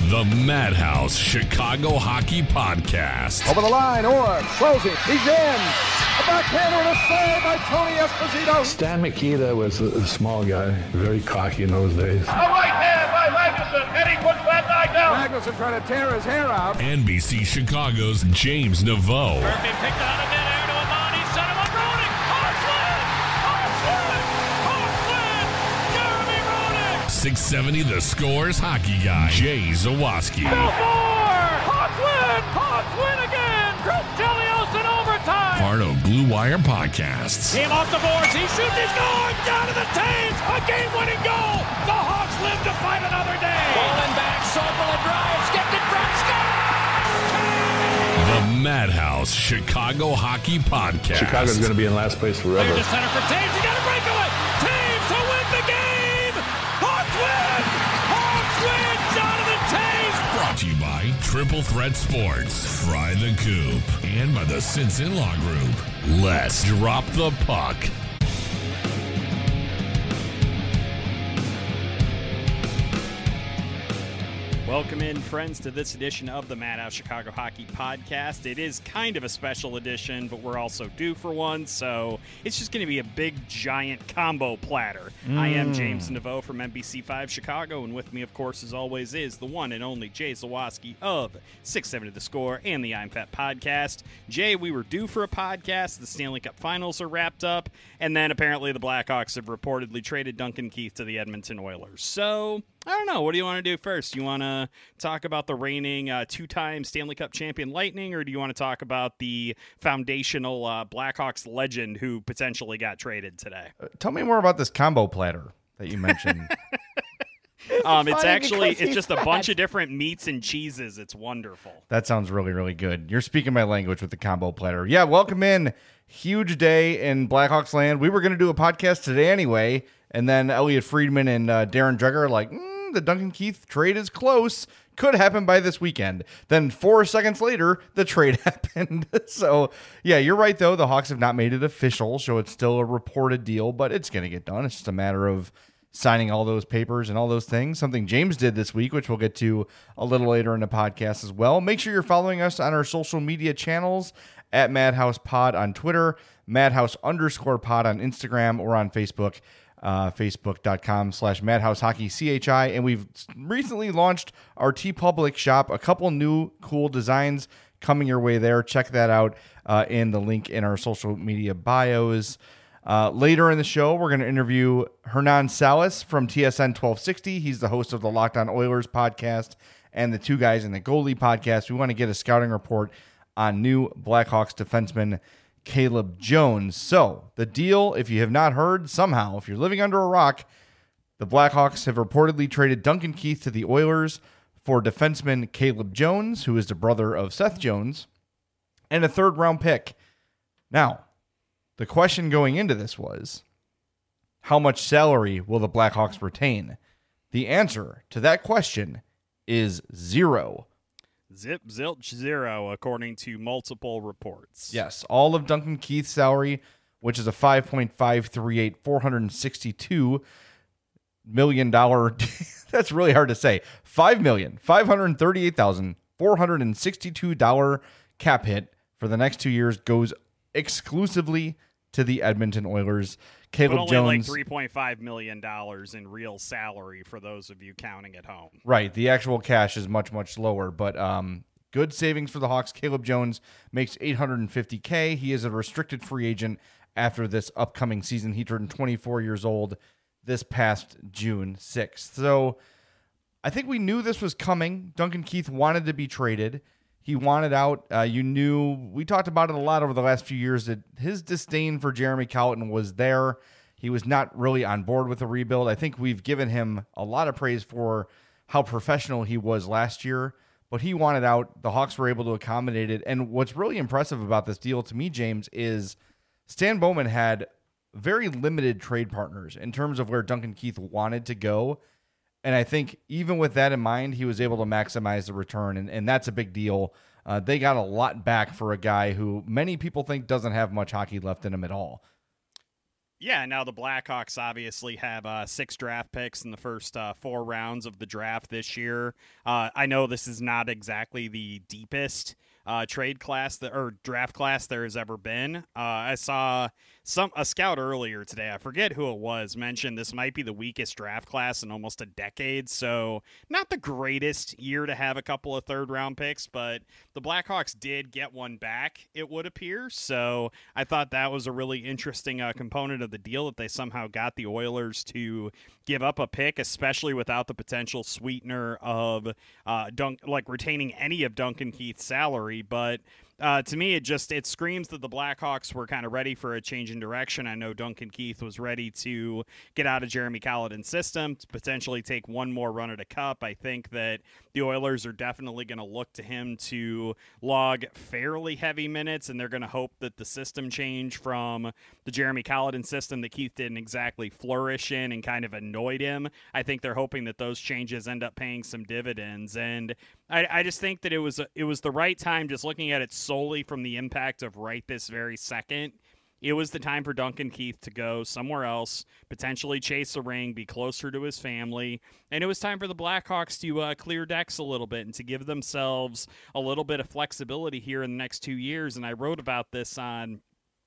The Madhouse Chicago Hockey Podcast. Over the line, Orr, closing, he's in. A backhander and a save by Tony Esposito. Stan Mikita was a small guy, very cocky in those days. A right hand by Magnuson, and he puts Van Dyke down. Magnuson trying to tear his hair out. NBC Chicago's James Naveau. Murphy picked out of midair to Amani, set him up, Roenick. Hawks Jeremy Roenick. 670 The Score's hockey guy, Jay Zawaski. Hawks win again. Chris Chelios in overtime. Part of Blue Wire Podcasts. Team off the boards, he shoots, he's going down to the Taves. A game-winning goal. The Hawks live to fight another day. Bowling back, Sobel drives, skipped it front, The Madhouse Chicago Hockey Podcast. Chicago's going to be in last place forever. There's the center for Taves. He got a breakaway. Taves to win the game. Hawks win. Hawks win. Jonathan Taves. Brought to you by Triple Threat Sports, Fry the Coop, and by the Sinson Law Group. Let's drop the puck. Welcome in, friends, to this edition of the Madhouse Chicago Hockey Podcast. It is kind of a special edition, but we're also due for one, so it's just going to be a big, giant combo platter. I am James Naveau from NBC5 Chicago, and with me, of course, as always, is the one and only Jay Zawaski of 670 The Score and the I'm Fat Podcast. Jay, we were due for a podcast. The Stanley Cup Finals are wrapped up, and then apparently the Blackhawks have reportedly traded Duncan Keith to the Edmonton Oilers. So I don't know. What do you want to do first? You want to talk about the reigning two-time Stanley Cup champion Lightning, or do you want to talk about the foundational Blackhawks legend who potentially got traded today? Tell me more about this combo platter that you mentioned. It's just a bunch of different meats and cheeses. It's wonderful. That sounds really, really good. You're speaking my language with the combo platter. Yeah, welcome in. Huge day in Blackhawks land. We were going to do a podcast today anyway, and then Elliot Friedman and Darren Dreger are like, the Duncan Keith trade is close. Could happen by this weekend. Then 4 seconds later, the trade happened. So, yeah, you're right, though. The Hawks have not made it official, so it's still a reported deal, but it's going to get done. It's just a matter of signing all those papers and all those things. Something James did this week, which we'll get to a little later in the podcast as well. Make sure you're following us on our social media channels at Madhouse Pod on Twitter, Madhouse_pod on Instagram, or on Facebook. Facebook.com/MadhouseHockeyCHI. And we've recently launched our TeePublic shop. A couple new cool designs coming your way there. Check that out in the link in our social media bios. Later in the show, we're going to interview Hernan Salas from TSN 1260. He's the host of the Locked On Oilers podcast and the Two Guys in the Goalie podcast. We want to get a scouting report on new Blackhawks defenseman Caleb Jones. So the deal, if you have not heard, somehow, if you're living under a rock, the Blackhawks have reportedly traded Duncan Keith to the Oilers for defenseman Caleb Jones, who is the brother of Seth Jones, and a third-round pick. Now, the question going into this was, how much salary will the Blackhawks retain? The answer to that question is 0. Zip, zilch, zero, according to multiple reports. Yes, all of Duncan Keith's salary, which is a $5.538, $462 million. That's really hard to say. $5,538,462 cap hit for the next 2 years goes exclusively to the Edmonton Oilers. Caleb but only Jones, like $3.5 million in real salary for those of you counting at home. Right. The actual cash is much, much lower, but good savings for the Hawks. Caleb Jones makes $850K. He is a restricted free agent after this upcoming season. He turned 24 years old this past June 6th. So I think we knew this was coming. Duncan Keith wanted to be traded. He wanted out. We talked about it a lot over the last few years, that his disdain for Jeremy Colliton was there. He was not really on board with the rebuild. I think we've given him a lot of praise for how professional he was last year, but he wanted out. The Hawks were able to accommodate it. And what's really impressive about this deal to me, James, is Stan Bowman had very limited trade partners in terms of where Duncan Keith wanted to go. And I think even with that in mind, he was able to maximize the return, and that's a big deal. They got a lot back for a guy who many people think doesn't have much hockey left in him at all. Yeah, now the Blackhawks obviously have 6 draft picks in the first 4 rounds of the draft this year. I know this is not exactly the deepest trade class or draft class there has ever been. I saw a scout earlier today, I forget who it was, mentioned this might be the weakest draft class in almost a decade. So not the greatest year to have a couple of 3rd-round picks, but the Blackhawks did get one back, it would appear. So I thought that was a really interesting component of the deal, that they somehow got the Oilers to give up a pick, especially without the potential sweetener of retaining any of Duncan Keith's salary. But to me, it screams that the Blackhawks were kind of ready for a change in direction. I know Duncan Keith was ready to get out of Jeremy Colliton's system, to potentially take one more run at a cup. I think that the Oilers are definitely going to look to him to log fairly heavy minutes, and they're going to hope that the system change from the Jeremy Colliton system that Keith didn't exactly flourish in and kind of annoyed him. I think they're hoping that those changes end up paying some dividends, and I just think that it was the right time, just looking at it solely from the impact of right this very second. It was the time for Duncan Keith to go somewhere else, potentially chase a ring, be closer to his family, and it was time for the Blackhawks to clear decks a little bit and to give themselves a little bit of flexibility here in the next 2 years. And I wrote about this on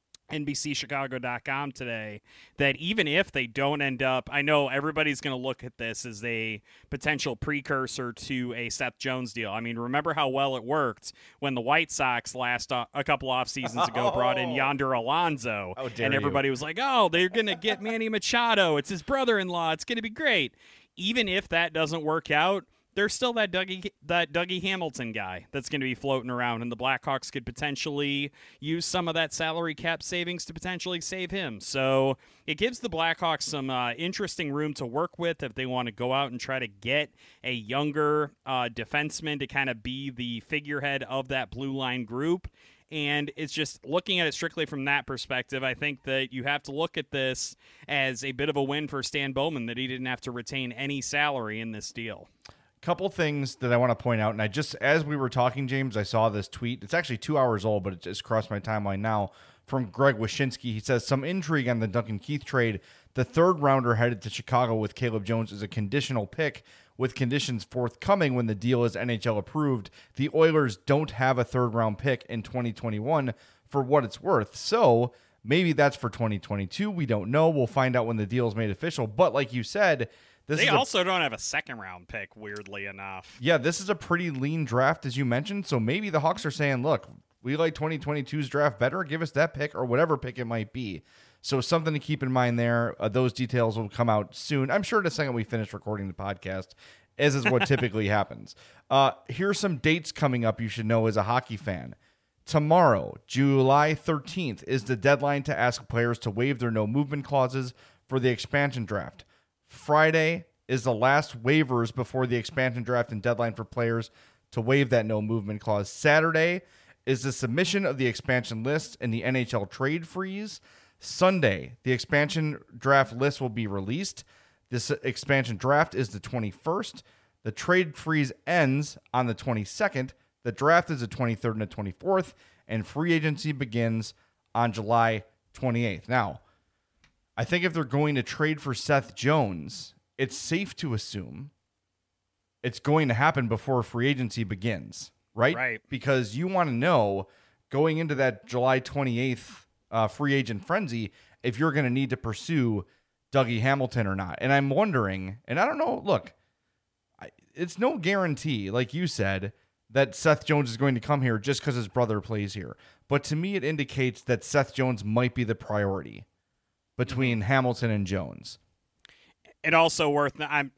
NBCChicago.com today, that even if they don't end up, I know everybody's going to look at this as a potential precursor to a Seth Jones deal. I mean, remember how well it worked when the White Sox a couple off seasons ago brought in Yonder Alonso, and everybody was like, oh, they're going to get Manny Machado. It's his brother-in-law. It's going to be great. Even if that doesn't work out, there's still that Dougie Hamilton guy that's going to be floating around, and the Blackhawks could potentially use some of that salary cap savings to potentially save him. So it gives the Blackhawks some interesting room to work with if they want to go out and try to get a younger defenseman to kind of be the figurehead of that blue line group. And it's just looking at it strictly from that perspective. I think that you have to look at this as a bit of a win for Stan Bowman, that he didn't have to retain any salary in this deal. Couple things that I want to point out, and as we were talking, James, I saw this tweet. It's actually 2 hours old, but it just crossed my timeline now, from Greg Wyshynski. He says, some intrigue on the Duncan Keith trade. The 3rd rounder headed to Chicago with Caleb Jones is a conditional pick, with conditions forthcoming when the deal is NHL approved. The Oilers don't have a 3rd round pick in 2021 for what it's worth. So maybe that's for 2022. We don't know. We'll find out when the deal is made official. But like you said, they also don't have a 2nd round pick, weirdly enough. Yeah, this is a pretty lean draft, as you mentioned. So maybe the Hawks are saying, look, we like 2022's draft better. Give us that pick, or whatever pick it might be. So something to keep in mind there. Those details will come out soon. I'm sure the second we finish recording the podcast, as is what typically happens. Here's some dates coming up you should know as a hockey fan. Tomorrow, July 13th, is the deadline to ask players to waive their no-movement clauses for the expansion draft. Friday is the last waivers before the expansion draft and deadline for players to waive that no-movement clause. Saturday is the submission of the expansion list and the NHL trade freeze. Sunday, the expansion draft list will be released. This expansion draft is the 21st. The trade freeze ends on the 22nd. The draft is the 23rd and the 24th. And free agency begins on July 28th. Now, I think if they're going to trade for Seth Jones, it's safe to assume it's going to happen before free agency begins, right? Right. Because you want to know, going into that July 28th free agent frenzy, if you're going to need to pursue Dougie Hamilton or not. And I'm wondering, and I don't know, look, it's no guarantee, like you said, that Seth Jones is going to come here just because his brother plays here. But to me, it indicates that Seth Jones might be the priority between Hamilton and Jones. It's also worth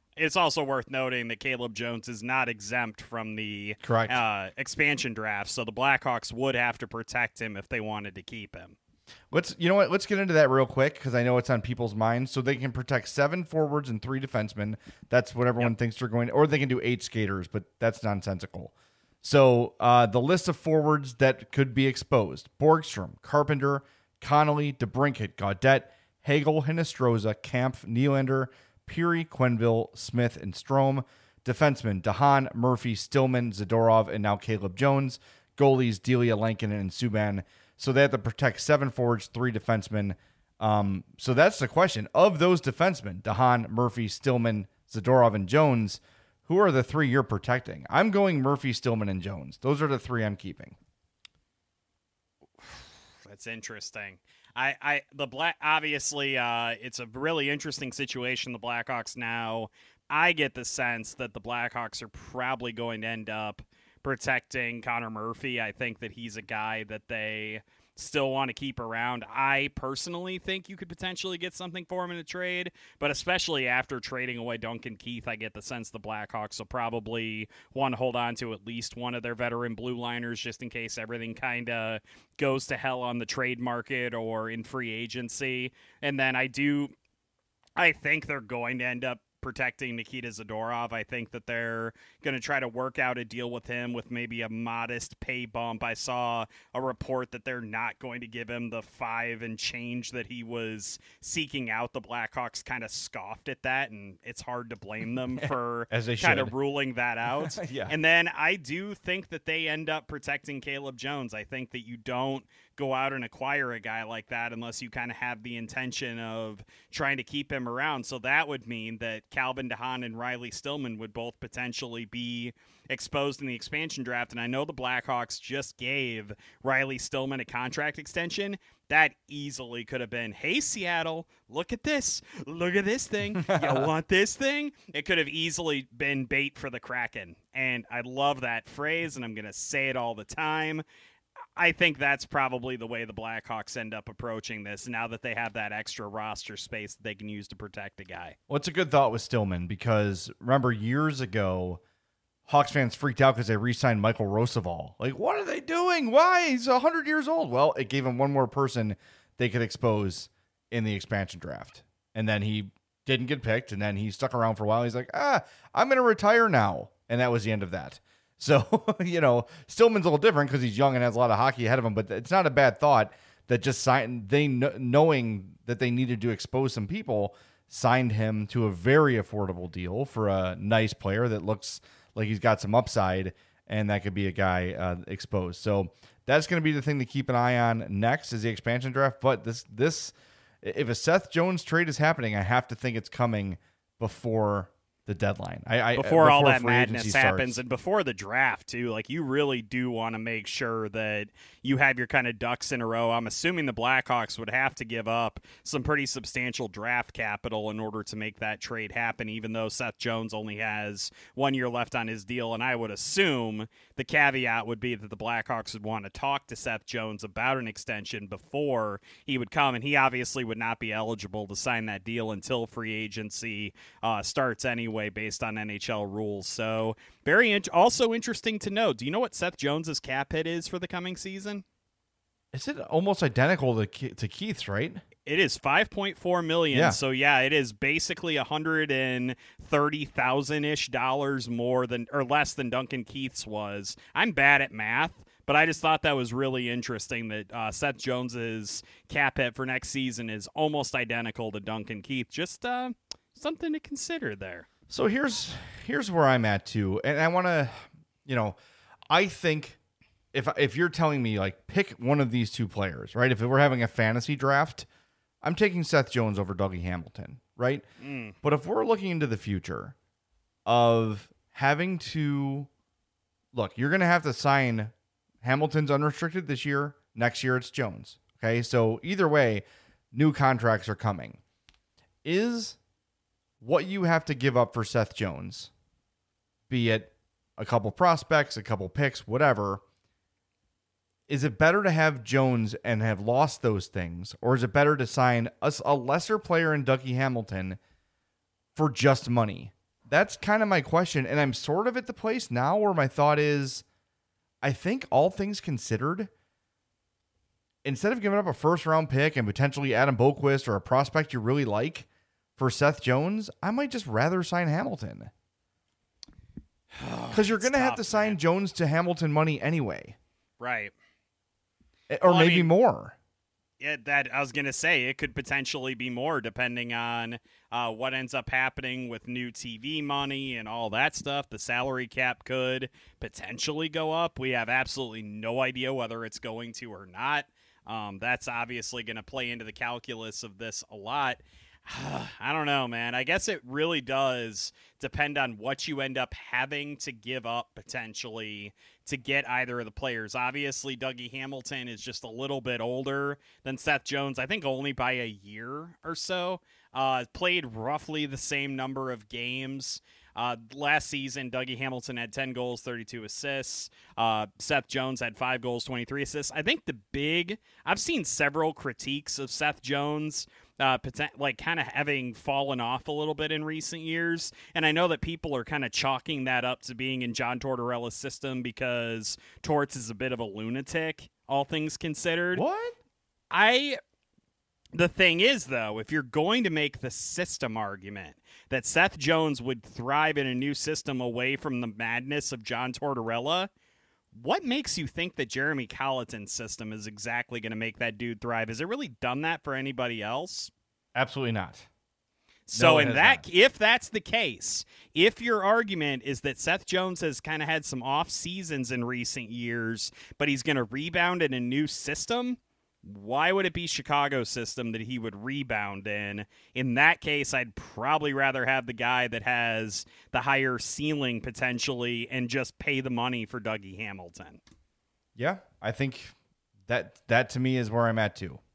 noting that Caleb Jones is not exempt from the expansion draft, so the Blackhawks would have to protect him if they wanted to keep him. Let's get into that real quick, because I know it's on people's minds. So they can protect 7 forwards and 3 defensemen. That's what everyone thinks they're going to, or they can do 8 skaters, but that's nonsensical. So the list of forwards that could be exposed: Borgstrom, Carpenter, Connolly, DeBrincat, Gaudette, Hagel, Hinestroza, Kampf, Nylander, Peary, Quenneville, Smith, and Strome. Defensemen: DeHaan, Murphy, Stillman, Zadorov, and now Caleb Jones. Goalies: Delia, Lankinen, and Subban. So they have to protect 7 forwards, 3 defensemen. So that's the question. Of those defensemen, DeHaan, Murphy, Stillman, Zadorov, and Jones, who are the three you're protecting? I'm going Murphy, Stillman, and Jones. Those are the three I'm keeping. That's interesting. Obviously, it's a really interesting situation. The Blackhawks now, I get the sense that the Blackhawks are probably going to end up protecting Connor Murphy. I think that he's a guy that they still want to keep around. I personally think you could potentially get something for him in a trade, but especially after trading away Duncan Keith, I get the sense the Blackhawks will probably want to hold on to at least one of their veteran blue liners just in case everything kind of goes to hell on the trade market or in free agency. And then I think they're going to end up protecting Nikita Zadorov. I think that they're going to try to work out a deal with him with maybe a modest pay bump. I saw a report that they're not going to give him the 5 and change that he was seeking out. The Blackhawks kind of scoffed at that, and it's hard to blame them for kind of ruling that out. Yeah. And then I do think that they end up protecting Caleb Jones. I think that you don't go out and acquire a guy like that unless you kind of have the intention of trying to keep him around. So that would mean that Calvin DeHaan and Riley Stillman would both potentially be exposed in the expansion draft. And I know the Blackhawks just gave Riley Stillman a contract extension. That easily could have been, hey, Seattle, look at this. Look at this thing. You want this thing? It could have easily been bait for the Kraken. And I love that phrase, and I'm going to say it all the time. I think that's probably the way the Blackhawks end up approaching this now that they have that extra roster space that they can use to protect a guy. Well, it's a good thought with Stillman because remember years ago, Hawks fans freaked out because they re-signed Michael Roosevelt. Like, what are they doing? Why? He's 100 years old. Well, it gave him one more person they could expose in the expansion draft. And then he didn't get picked, and then he stuck around for a while. He's like, I'm going to retire now. And that was the end of that. So, Stillman's a little different because he's young and has a lot of hockey ahead of him, but it's not a bad thought that just knowing that they needed to expose some people, signed him to a very affordable deal for a nice player that looks like he's got some upside, and that could be a guy exposed. So that's going to be the thing to keep an eye on next is the expansion draft. But this, if a Seth Jones trade is happening, I have to think it's coming before the deadline. Before all that madness happens and before the draft too. Like, you really do want to make sure that you have your kind of ducks in a row. I'm assuming the Blackhawks would have to give up some pretty substantial draft capital in order to make that trade happen, even though Seth Jones only has 1 year left on his deal. And I would assume the caveat would be that the Blackhawks would want to talk to Seth Jones about an extension before he would come. And he obviously would not be eligible to sign that deal until free agency starts anyway, based on NHL rules. So also interesting to know. Do you know what Seth Jones's cap hit is for the coming season? Is it almost identical to Keith's, right? It is $5.4 million. Yeah. So yeah, it is basically $130,000-ish more than or less than Duncan Keith's was. I'm bad at math, but I just thought that was really interesting that Seth Jones's cap hit for next season is almost identical to Duncan Keith. Just something to consider there. So here's where I'm at too, and I want to, I think if you're telling me like pick one of these two players, right? If we're having a fantasy draft, I'm taking Seth Jones over Dougie Hamilton, right? But if we're looking into the future of having to look, you're going to have to sign Hamilton's unrestricted this year. Next year it's Jones. Okay, so either way, new contracts are coming. Is what you have to give up for Seth Jones, be it a couple prospects, a couple picks, whatever, is it better to have Jones and have lost those things, or is it better to sign a lesser player in Dougie Hamilton for just money? That's kind of my question, and I'm sort of at the place now where my thought is, I think all things considered, instead of giving up a first-round pick and potentially Adam Boquist or a prospect you really like, for Seth Jones, I might just rather sign Hamilton. Because you're going to have to sign Jones to Hamilton money anyway. Right. Or maybe more. Yeah, that I was going to say, it could potentially be more depending on what ends up happening with new TV money and all that stuff. The salary cap could potentially go up. We have absolutely no idea whether it's going to or not. That's obviously going to play into the calculus of this a lot. I don't know, man. I guess it really does depend on what you end up having to give up potentially to get either of the players. Obviously, Dougie Hamilton is just a little bit older than Seth Jones, I think only by a year or so. Played roughly the same number of games. Last season, Dougie Hamilton had 10 goals, 32 assists. Seth Jones had 5 goals, 23 assists. I think I've seen several critiques of Seth Jones kind of having fallen off a little bit in recent years. And I know that people are kind of chalking that up to being in John Tortorella's system because Torts is a bit of a lunatic, all things considered. What? The thing is, though, if you're going to make the system argument that Seth Jones would thrive in a new system away from the madness of John Tortorella, what makes you think that Jeremy Colleton's system is exactly going to make that dude thrive? Has it really done that for anybody else? Absolutely not. So if that's the case, if your argument is that Seth Jones has kind of had some off seasons in recent years, but he's going to rebound in a new system, why would it be Chicago's system that he would rebound in? In that case, I'd probably rather have the guy that has the higher ceiling potentially and just pay the money for Dougie Hamilton. Yeah, I think that to me is where I'm at too.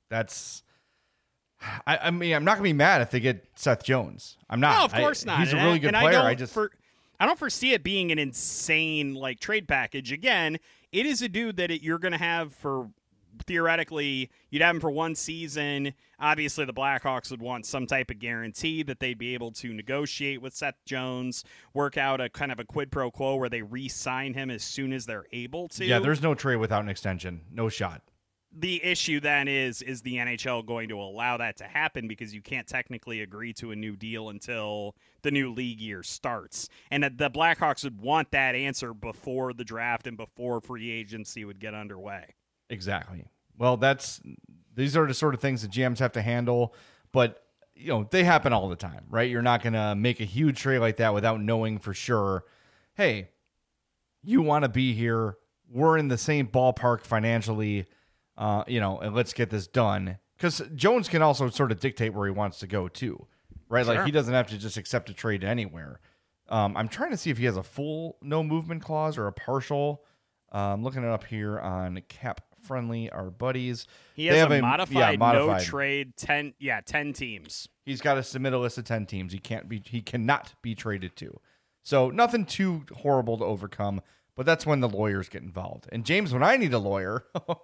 I mean, I'm not going to be mad if they get Seth Jones. I'm not. No, of course not. He's a really good player. I don't foresee it being an insane trade package. Again, it is a dude that you're going to have for theoretically, you'd have him for one season. Obviously, the Blackhawks would want some type of guarantee that they'd be able to negotiate with Seth Jones, work out a kind of a quid pro quo where they re-sign him as soon as they're able to. Yeah, there's no trade without an extension. No shot. The issue then is the NHL going to allow that to happen because you can't technically agree to a new deal until the new league year starts. And the Blackhawks would want that answer before the draft and before free agency would get underway. Exactly. Well, these are the sort of things that GMs have to handle, but they happen all the time, right? You're not going to make a huge trade like that without knowing for sure, hey, you want to be here. We're in the same ballpark financially, and let's get this done. Because Jones can also sort of dictate where he wants to go too, right? Sure. Like he doesn't have to just accept a trade anywhere. I'm trying to see if he has a full no movement clause or a partial. I'm looking it up here on Cap Friendly, our buddies. He has a modified no trade 10 teams. He's got to submit a list of 10 teams. He cannot be traded to. So nothing too horrible to overcome, but that's when the lawyers get involved. And James, when I need a lawyer,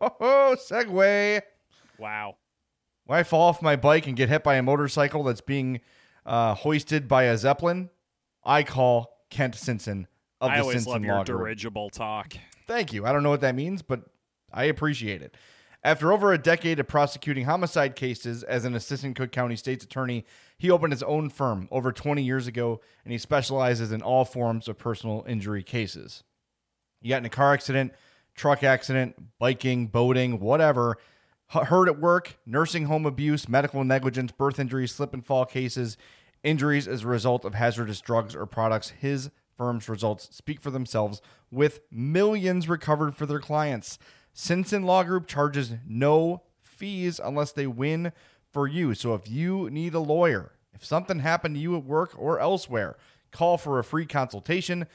segue. Wow. When I fall off my bike and get hit by a motorcycle that's being hoisted by a Zeppelin, I call Kent Simpson of the Simpson Law Group. I always love your dirigible talk. Thank you. I don't know what that means, but I appreciate it. After over a decade of prosecuting homicide cases as an assistant Cook County State's attorney, he opened his own firm over 20 years ago, and he specializes in all forms of personal injury cases. You got in a car accident, truck accident, biking, boating, whatever, hurt at work, nursing home abuse, medical negligence, birth injuries, slip and fall cases, injuries as a result of hazardous drugs or products. His firm's results speak for themselves, with millions recovered for their clients. Simpson Law Group charges no fees unless they win for you. So if you need a lawyer, if something happened to you at work or elsewhere, call for a free consultation,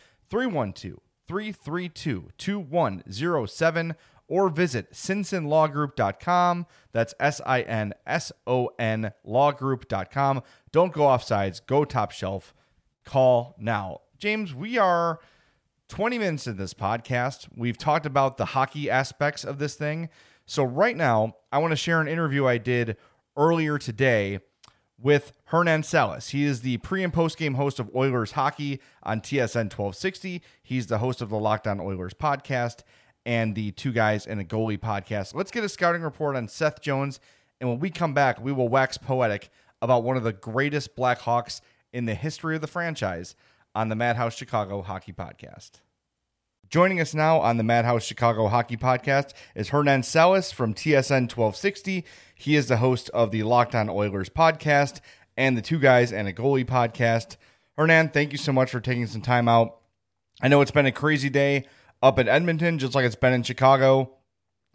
312-332-2107, or visit SinsonLawGroup.com. That's SINSON lawgroup.com. Don't go off sides. Go top shelf. Call now. James, we are 20 minutes into this podcast. We've talked about the hockey aspects of this thing. So right now, I want to share an interview I did earlier today with Hernan Salas. He is the pre- and post-game host of Oilers Hockey on TSN 1260. He's the host of the Locked On Oilers podcast and the Two Guys and a Goalie podcast. Let's get a scouting report on Seth Jones, and when we come back, we will wax poetic about one of the greatest Blackhawks in the history of the franchise on the Madhouse Chicago Hockey Podcast. Joining us now on the Madhouse Chicago Hockey Podcast is Hernan Salas from TSN 1260. He is the host of the Locked On Oilers podcast and the Two Guys and a Goalie podcast. Hernan, thank you so much for taking some time out. I know it's been a crazy day up in Edmonton, just like it's been in Chicago.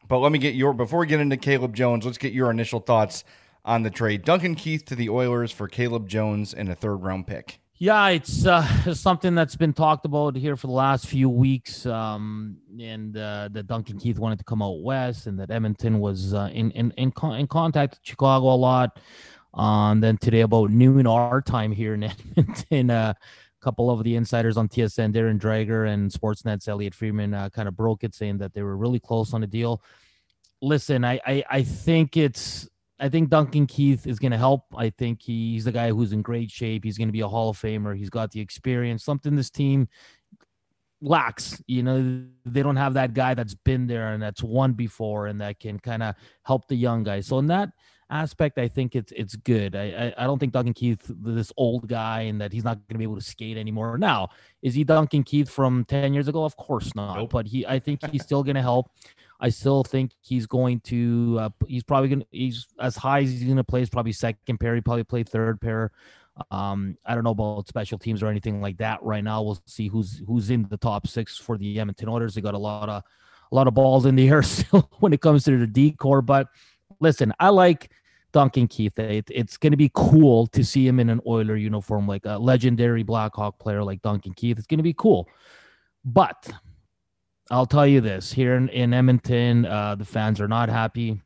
But let me get before we get into Caleb Jones, let's get your initial thoughts on the trade. Duncan Keith to the Oilers for Caleb Jones and a 3rd-round pick. Yeah, it's something that's been talked about here for the last few weeks, and that Duncan Keith wanted to come out west, and that Edmonton was in contact with Chicago a lot. And then today about noon our time here in Edmonton, a couple of the insiders on TSN, Darren Drager and Sportsnet's Elliot Friedman, kind of broke it, saying that they were really close on the deal. Listen, I think Duncan Keith is going to help. I think he's the guy who's in great shape. He's going to be a Hall of Famer. He's got the experience, something this team lacks. You know, they don't have that guy that's been there and that's won before and that can kind of help the young guys. So in that aspect, I think it's good. I don't think Duncan Keith, this old guy, and that he's not going to be able to skate anymore. Now, is he Duncan Keith from 10 years ago? Of course not. Nope. But I think he's still going to help. I still think he's going to. He's probably going to. He's as high as he's going to play. He's probably second pair. He probably play third pair. I don't know about special teams or anything like that right now. We'll see who's in the top 6 for the Edmonton Oilers. They got a lot of balls in the air still when it comes to the D-core. But listen, I like Duncan Keith. It's going to be cool to see him in an Oiler uniform, like a legendary Blackhawk player like Duncan Keith. It's going to be cool. But I'll tell you this, here in Edmonton, the fans are not happy.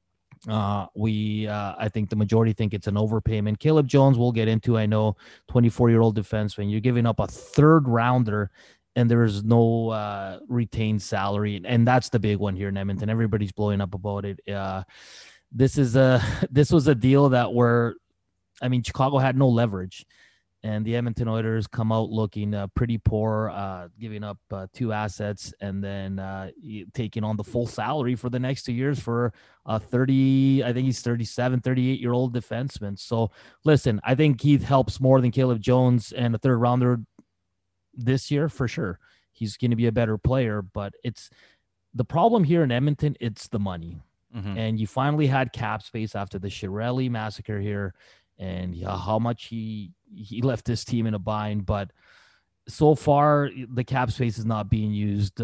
I think the majority think it's an overpayment. Caleb Jones, we'll get into, I know, 24-year-old defenseman. You're giving up a 3rd-rounder, and there is no retained salary, and that's the big one here in Edmonton. Everybody's blowing up about it. This was a deal Chicago had no leverage. And the Edmonton Oilers come out looking pretty poor, giving up 2 assets and then taking on the full salary for the next 2 years for a 38-year-old defenseman. So, listen, I think Keith helps more than Caleb Jones and a 3rd-rounder this year for sure. He's going to be a better player, but it's the problem here in Edmonton, it's the money. Mm-hmm. And you finally had cap space after the Chiarelli massacre here. And how much he left this team in a bind, but so far the cap space is not being used.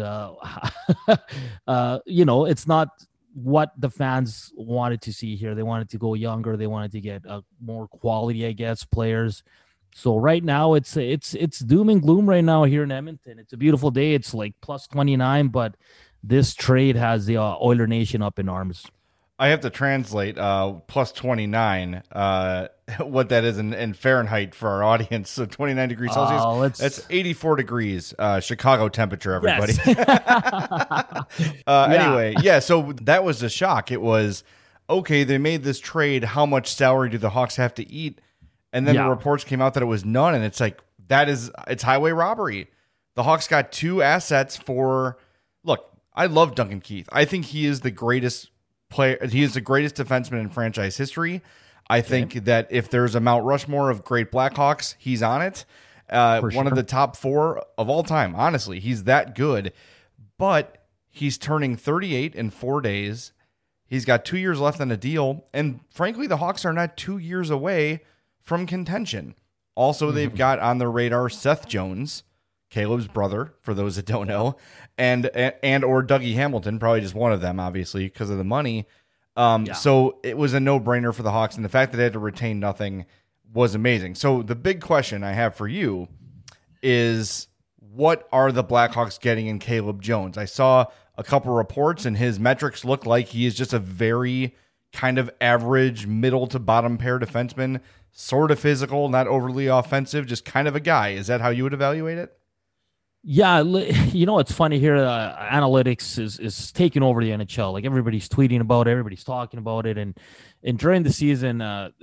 It's not what the fans wanted to see here. They wanted to go younger. They wanted to get more quality, I guess, players. So right now it's doom and gloom right now here in Edmonton. It's a beautiful day. It's like plus 29, but this trade has the Oiler Nation up in arms. I have to translate plus 29, what that is in Fahrenheit for our audience. So 29 degrees Celsius. That's 84 degrees Chicago temperature, everybody. Yes. Anyway, yeah, so that was a shock. It was, okay, they made this trade. How much salary do the Hawks have to eat? And then the reports came out that it was none. And it's like, it's highway robbery. The Hawks got 2 assets for, look, I love Duncan Keith. I think he is the greatest player. He is the greatest defenseman in franchise history. I think that if there's a Mount Rushmore of great Blackhawks, he's on it. One of the top 4 of all time. Honestly, he's that good. But he's turning 38 in 4 days. He's got 2 years left on a deal. And frankly, the Hawks are not 2 years away from contention. Also, they've got on their radar Seth Jones, Caleb's brother, for those that don't know, and or Dougie Hamilton, probably just one of them, obviously, because of the money. So it was a no-brainer for the Hawks, and the fact that they had to retain nothing was amazing. So the big question I have for you is, what are the Blackhawks getting in Caleb Jones? I saw a couple reports, and his metrics look like he is just a very kind of average middle to bottom pair defenseman, sort of physical, not overly offensive, just kind of a guy. Is that how you would evaluate it? Yeah, it's funny here. Analytics is taking over the NHL. Like, everybody's tweeting about it, everybody's talking about it, and during the season, the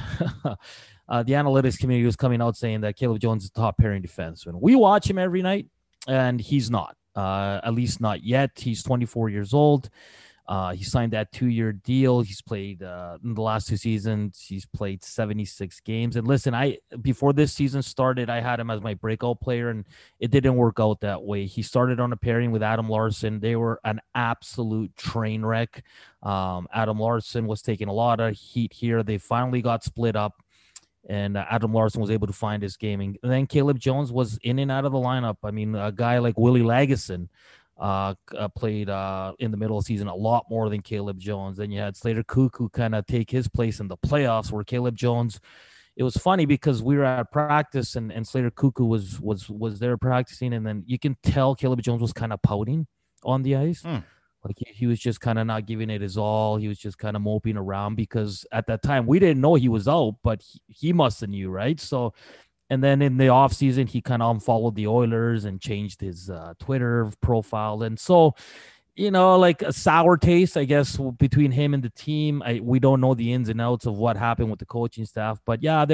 analytics community was coming out saying that Caleb Jones is the top pairing defenseman. We watch him every night, and he's not. At least not yet. He's 24 years old. He signed that 2-year deal. He's played in the last 2 seasons. He's played 76 games. And listen, before this season started, I had him as my breakout player, and it didn't work out that way. He started on a pairing with Adam Larsson. They were an absolute train wreck. Adam Larsson was taking a lot of heat here. They finally got split up, and Adam Larsson was able to find his game. And then Caleb Jones was in and out of the lineup. I mean, a guy like Willie Lagesson played in the middle of the season a lot more than Caleb Jones. Then you had Slater Cuckoo kind of take his place in the playoffs, where Caleb Jones. It was funny because we were at practice and Slater Cuckoo was there practicing, and then you can tell Caleb Jones was kind of pouting on the ice. Like he was just kind of not giving it his all. He was just kind of moping around because at that time we didn't know he was out, but he must have knew, right? So, and then in the offseason, he kind of unfollowed the Oilers and changed his Twitter profile. And so, like a sour taste, I guess, between him and the team. We don't know the ins and outs of what happened with the coaching staff. But yeah,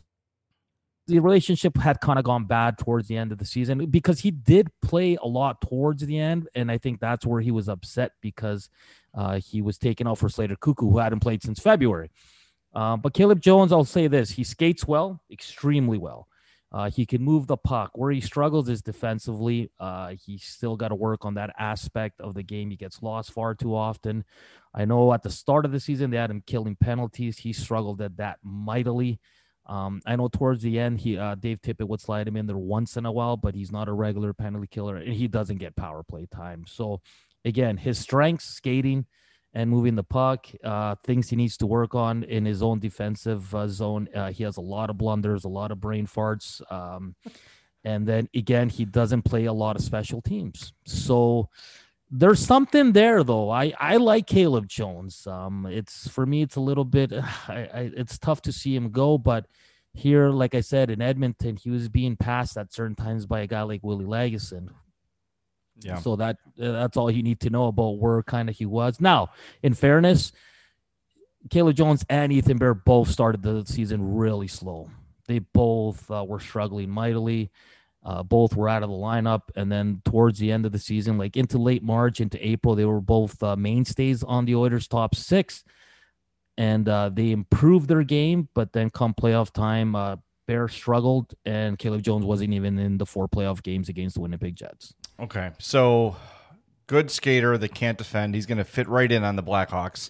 the relationship had kind of gone bad towards the end of the season because he did play a lot towards the end. And I think that's where he was upset because he was taken out for Slater Cuckoo, who hadn't played since February. But Caleb Jones, I'll say this, he skates well, extremely well. He can move the puck. Where he struggles is defensively. He's still got to work on that aspect of the game. He gets lost far too often. I know at the start of the season, they had him killing penalties. He struggled at that mightily. I know towards the end, Dave Tippett would slide him in there once in a while, but he's not a regular penalty killer, and he doesn't get power play time. So, again, his strengths, skating and moving the puck, things he needs to work on in his own defensive zone. He has a lot of blunders, a lot of brain farts. And then, again, he doesn't play a lot of special teams. So there's something there, though. I like Caleb Jones. For me, it's a little bit, it's tough to see him go, but here, like I said, in Edmonton, he was being passed at certain times by a guy like Willie Lagesson. Yeah. So that's all you need to know about where kind of he was. Now, in fairness, Caleb Jones and Ethan Bear both started the season really slow. They both were struggling mightily. Both were out of the lineup. And then towards the end of the season, like into late March, into April, they were both mainstays on the Oilers' top six. And they improved their game. But then come playoff time, Bear struggled, and Caleb Jones wasn't even in the 4 playoff games against the Winnipeg Jets. Okay, so good skater that can't defend. He's going to fit right in on the Blackhawks.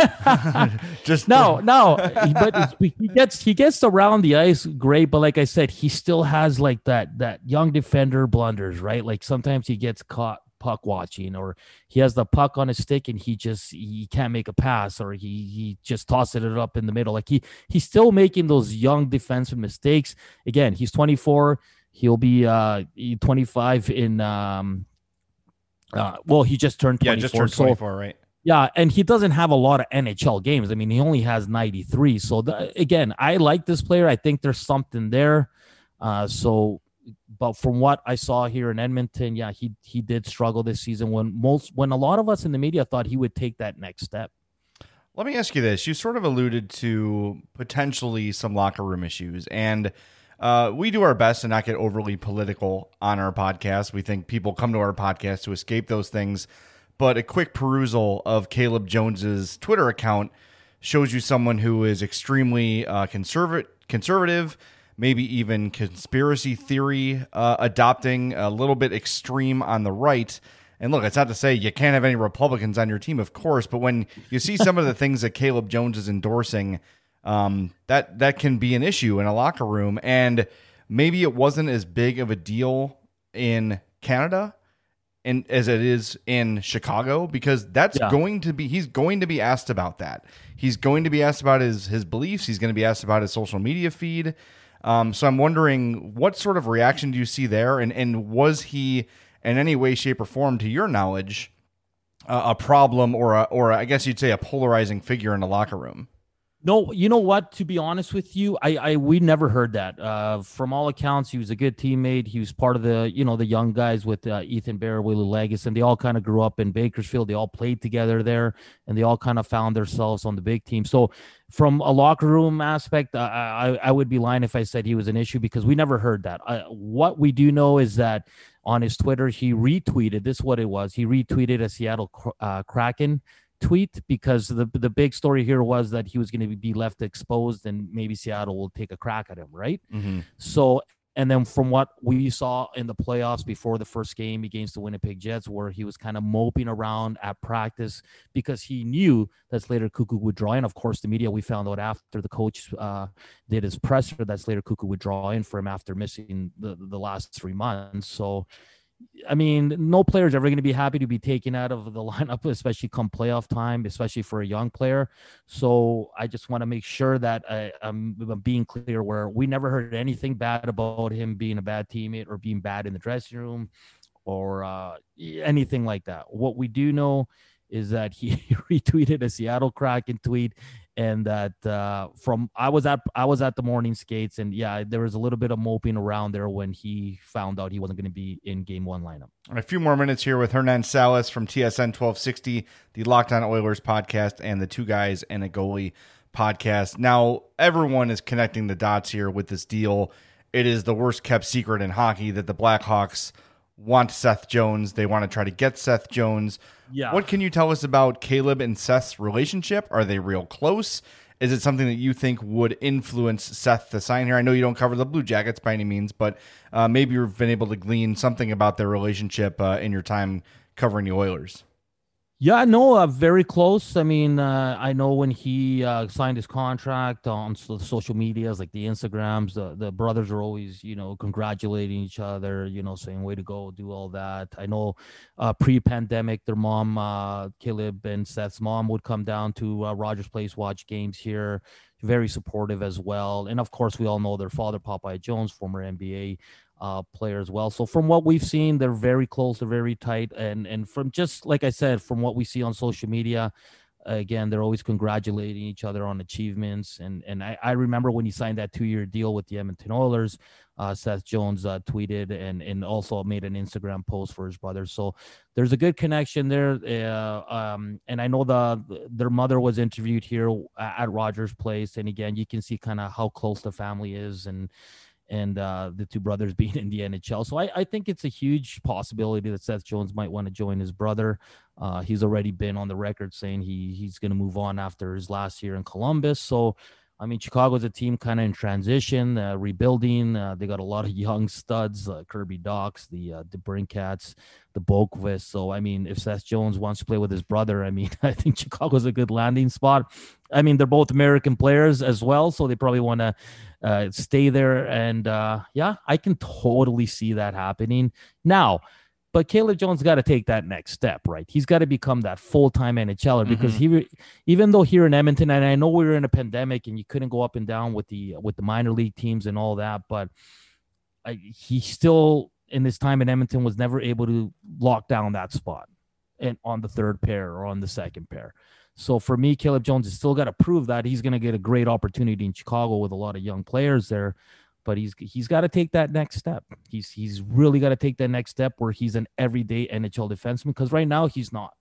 But he gets around the ice great. But like I said, he still has like that young defender blunders, right? Like sometimes he gets caught puck watching, or he has the puck on his stick and he can't make a pass, or he just tosses it up in the middle. Like he's still making those young defensive mistakes. Again, he's 24. He'll be 25 in he just turned 24. Yeah, just turned 24, right? Yeah, and he doesn't have a lot of NHL games. I mean, he only has 93. So again, I like this player. I think there's something there. But from what I saw here in Edmonton, yeah, he did struggle this season when a lot of us in the media thought he would take that next step. Let me ask you this. You sort of alluded to potentially some locker room issues, and we do our best to not get overly political on our podcast. We think people come to our podcast to escape those things, but a quick perusal of Caleb Jones's Twitter account shows you someone who is extremely conservative, maybe even conspiracy theory adopting, a little bit extreme on the right. And look, it's not to say you can't have any Republicans on your team, of course, but when you see some of the things that Caleb Jones is endorsing, that can be an issue in a locker room. And maybe it wasn't as big of a deal in Canada as it is in Chicago, because he's going to be asked about that. He's going to be asked about his beliefs. He's going to be asked about his social media feed. So I'm wondering, what sort of reaction do you see there? And was he in any way, shape, or form, to your knowledge, a problem or I guess you'd say a polarizing figure in the locker room? No, you know what? To be honest with you, we never heard that. From all accounts, he was a good teammate. He was part of the young guys with Ethan Bear, Willie Lagesson. They all kind of grew up in Bakersfield. They all played together there, and they all kind of found themselves on the big team. So from a locker room aspect, I would be lying if I said he was an issue, because we never heard that. What we do know is that on his Twitter, he retweeted, this is what it was. He retweeted a Seattle Kraken tweet, because the big story here was that he was going to be left exposed and maybe Seattle will take a crack at him, right? Mm-hmm. So, and then from what we saw in the playoffs before the first game against the Winnipeg Jets, where he was kind of moping around at practice because he knew that Slater Cuckoo would draw in. Of course, the media, we found out after the coach did his presser that Slater Cuckoo would draw in for him after missing the last 3 months. So I mean, no player is ever going to be happy to be taken out of the lineup, especially come playoff time, especially for a young player. So I just want to make sure that I'm being clear where we never heard anything bad about him being a bad teammate or being bad in the dressing room or anything like that. What we do know is that he retweeted a Seattle Kraken tweet, and that I was at the morning skates, and yeah, there was a little bit of moping around there when he found out he wasn't going to be in Game 1 lineup. A few more minutes here with Hernan Salas from TSN 1260, the Locked On Oilers podcast, and the Two Guys and a Goalie podcast. Now, everyone is connecting the dots here with this deal. It is the worst kept secret in hockey that the Blackhawks want Seth Jones. They want to try to get Seth Jones. Yeah. What can you tell us about Caleb and Seth's relationship? Are they real close? Is it something that you think would influence Seth to sign here? I know you don't cover the Blue Jackets by any means, but maybe you've been able to glean something about their relationship in your time covering the Oilers. Yeah, no, very close. I mean, I know when he signed his contract on social medias, like the Instagrams, the brothers are always, congratulating each other, saying, way to go, do all that. I know pre-pandemic, their mom, Caleb and Seth's mom would come down to Rogers Place, watch games here. Very supportive as well. And of course, we all know their father, Popeye Jones, former NBA player as well. So from what we've seen, they're very close, they're very tight, and from just like I said, from what we see on social media, again, they're always congratulating each other on achievements. And I remember when he signed that 2-year deal with the Edmonton Oilers, Seth Jones tweeted and also made an Instagram post for his brother. So there's a good connection there. And I know their mother was interviewed here at Rogers Place, and again, you can see kind of how close the family is, and the two brothers being in the NHL. So I think it's a huge possibility that Seth Jones might want to join his brother. He's already been on the record saying he's going to move on after his last year in Columbus. So, I mean, Chicago's a team kind of in transition, rebuilding. They got a lot of young studs, Kirby Dachs, the Brinkats, the Boqvist. So, I mean, if Seth Jones wants to play with his brother, I mean, I think Chicago's a good landing spot. I mean, they're both American players as well, so they probably want to stay there. And, yeah, I can totally see that happening. Now, but Caleb Jones got to take that next step, right? He's got to become that full-time NHLer because even though here in Edmonton, and I know we were in a pandemic and you couldn't go up and down with the minor league teams and all that, but he still, in his time in Edmonton, was never able to lock down that spot and on the third pair or on the second pair. So for me, Caleb Jones has still got to prove that he's going to get a great opportunity in Chicago with a lot of young players there. But he's got to take that next step. He's really got to take that next step where he's an everyday NHL defenseman, because right now he's not.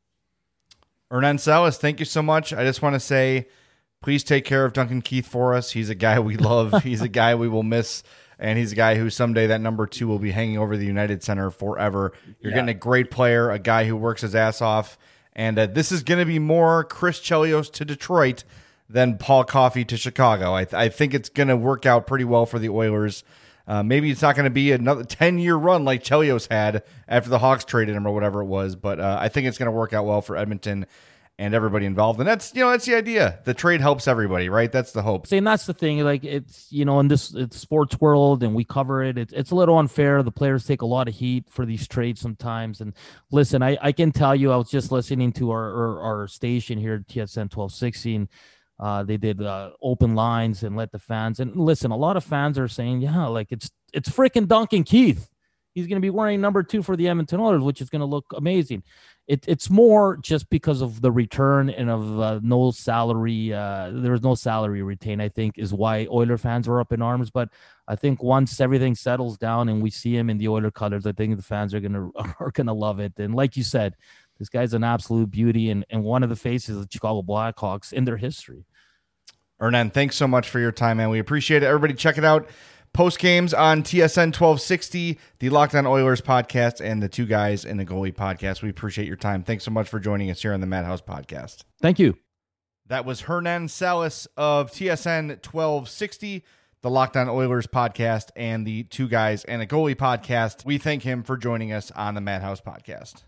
Hernan Salas, thank you so much. I just want to say, please take care of Duncan Keith for us. He's a guy we love. He's a guy we will miss. And he's a guy who someday that number 2 will be hanging over the United Center forever. You're getting a great player, a guy who works his ass off. And this is going to be more Chris Chelios to Detroit than Paul Coffey to Chicago. I think it's going to work out pretty well for the Oilers. Maybe it's not going to be another 10-year run like Chelios had after the Hawks traded him or whatever it was, but I think it's going to work out well for Edmonton and everybody involved. And that's the idea. The trade helps everybody, right? That's the hope. And that's the thing. Like, it's, in this sports world, and we cover it. It's a little unfair. The players take a lot of heat for these trades sometimes. And listen, I can tell you, I was just listening to our station here at TSN 1260. They did open lines and let the fans. And listen, a lot of fans are saying, yeah, like it's freaking Duncan Keith. He's going to be wearing number 2 for the Edmonton Oilers, which is going to look amazing. It's more just because of the return and of no salary. There was no salary retained, I think, is why Oiler fans were up in arms. But I think once everything settles down and we see him in the Oiler colors, I think the fans are gonna love it. And like you said, this guy's an absolute beauty and one of the faces of the Chicago Blackhawks in their history. Hernan, thanks so much for your time, man. We appreciate it. Everybody check it out. Post games on TSN 1260, the Locked On Oilers podcast, and the Two Guys and the Goalie podcast. We appreciate your time. Thanks so much for joining us here on the Madhouse podcast. Thank you. That was Hernan Salas of TSN 1260, the Locked On Oilers podcast, and the Two Guys and a Goalie podcast. We thank him for joining us on the Madhouse podcast.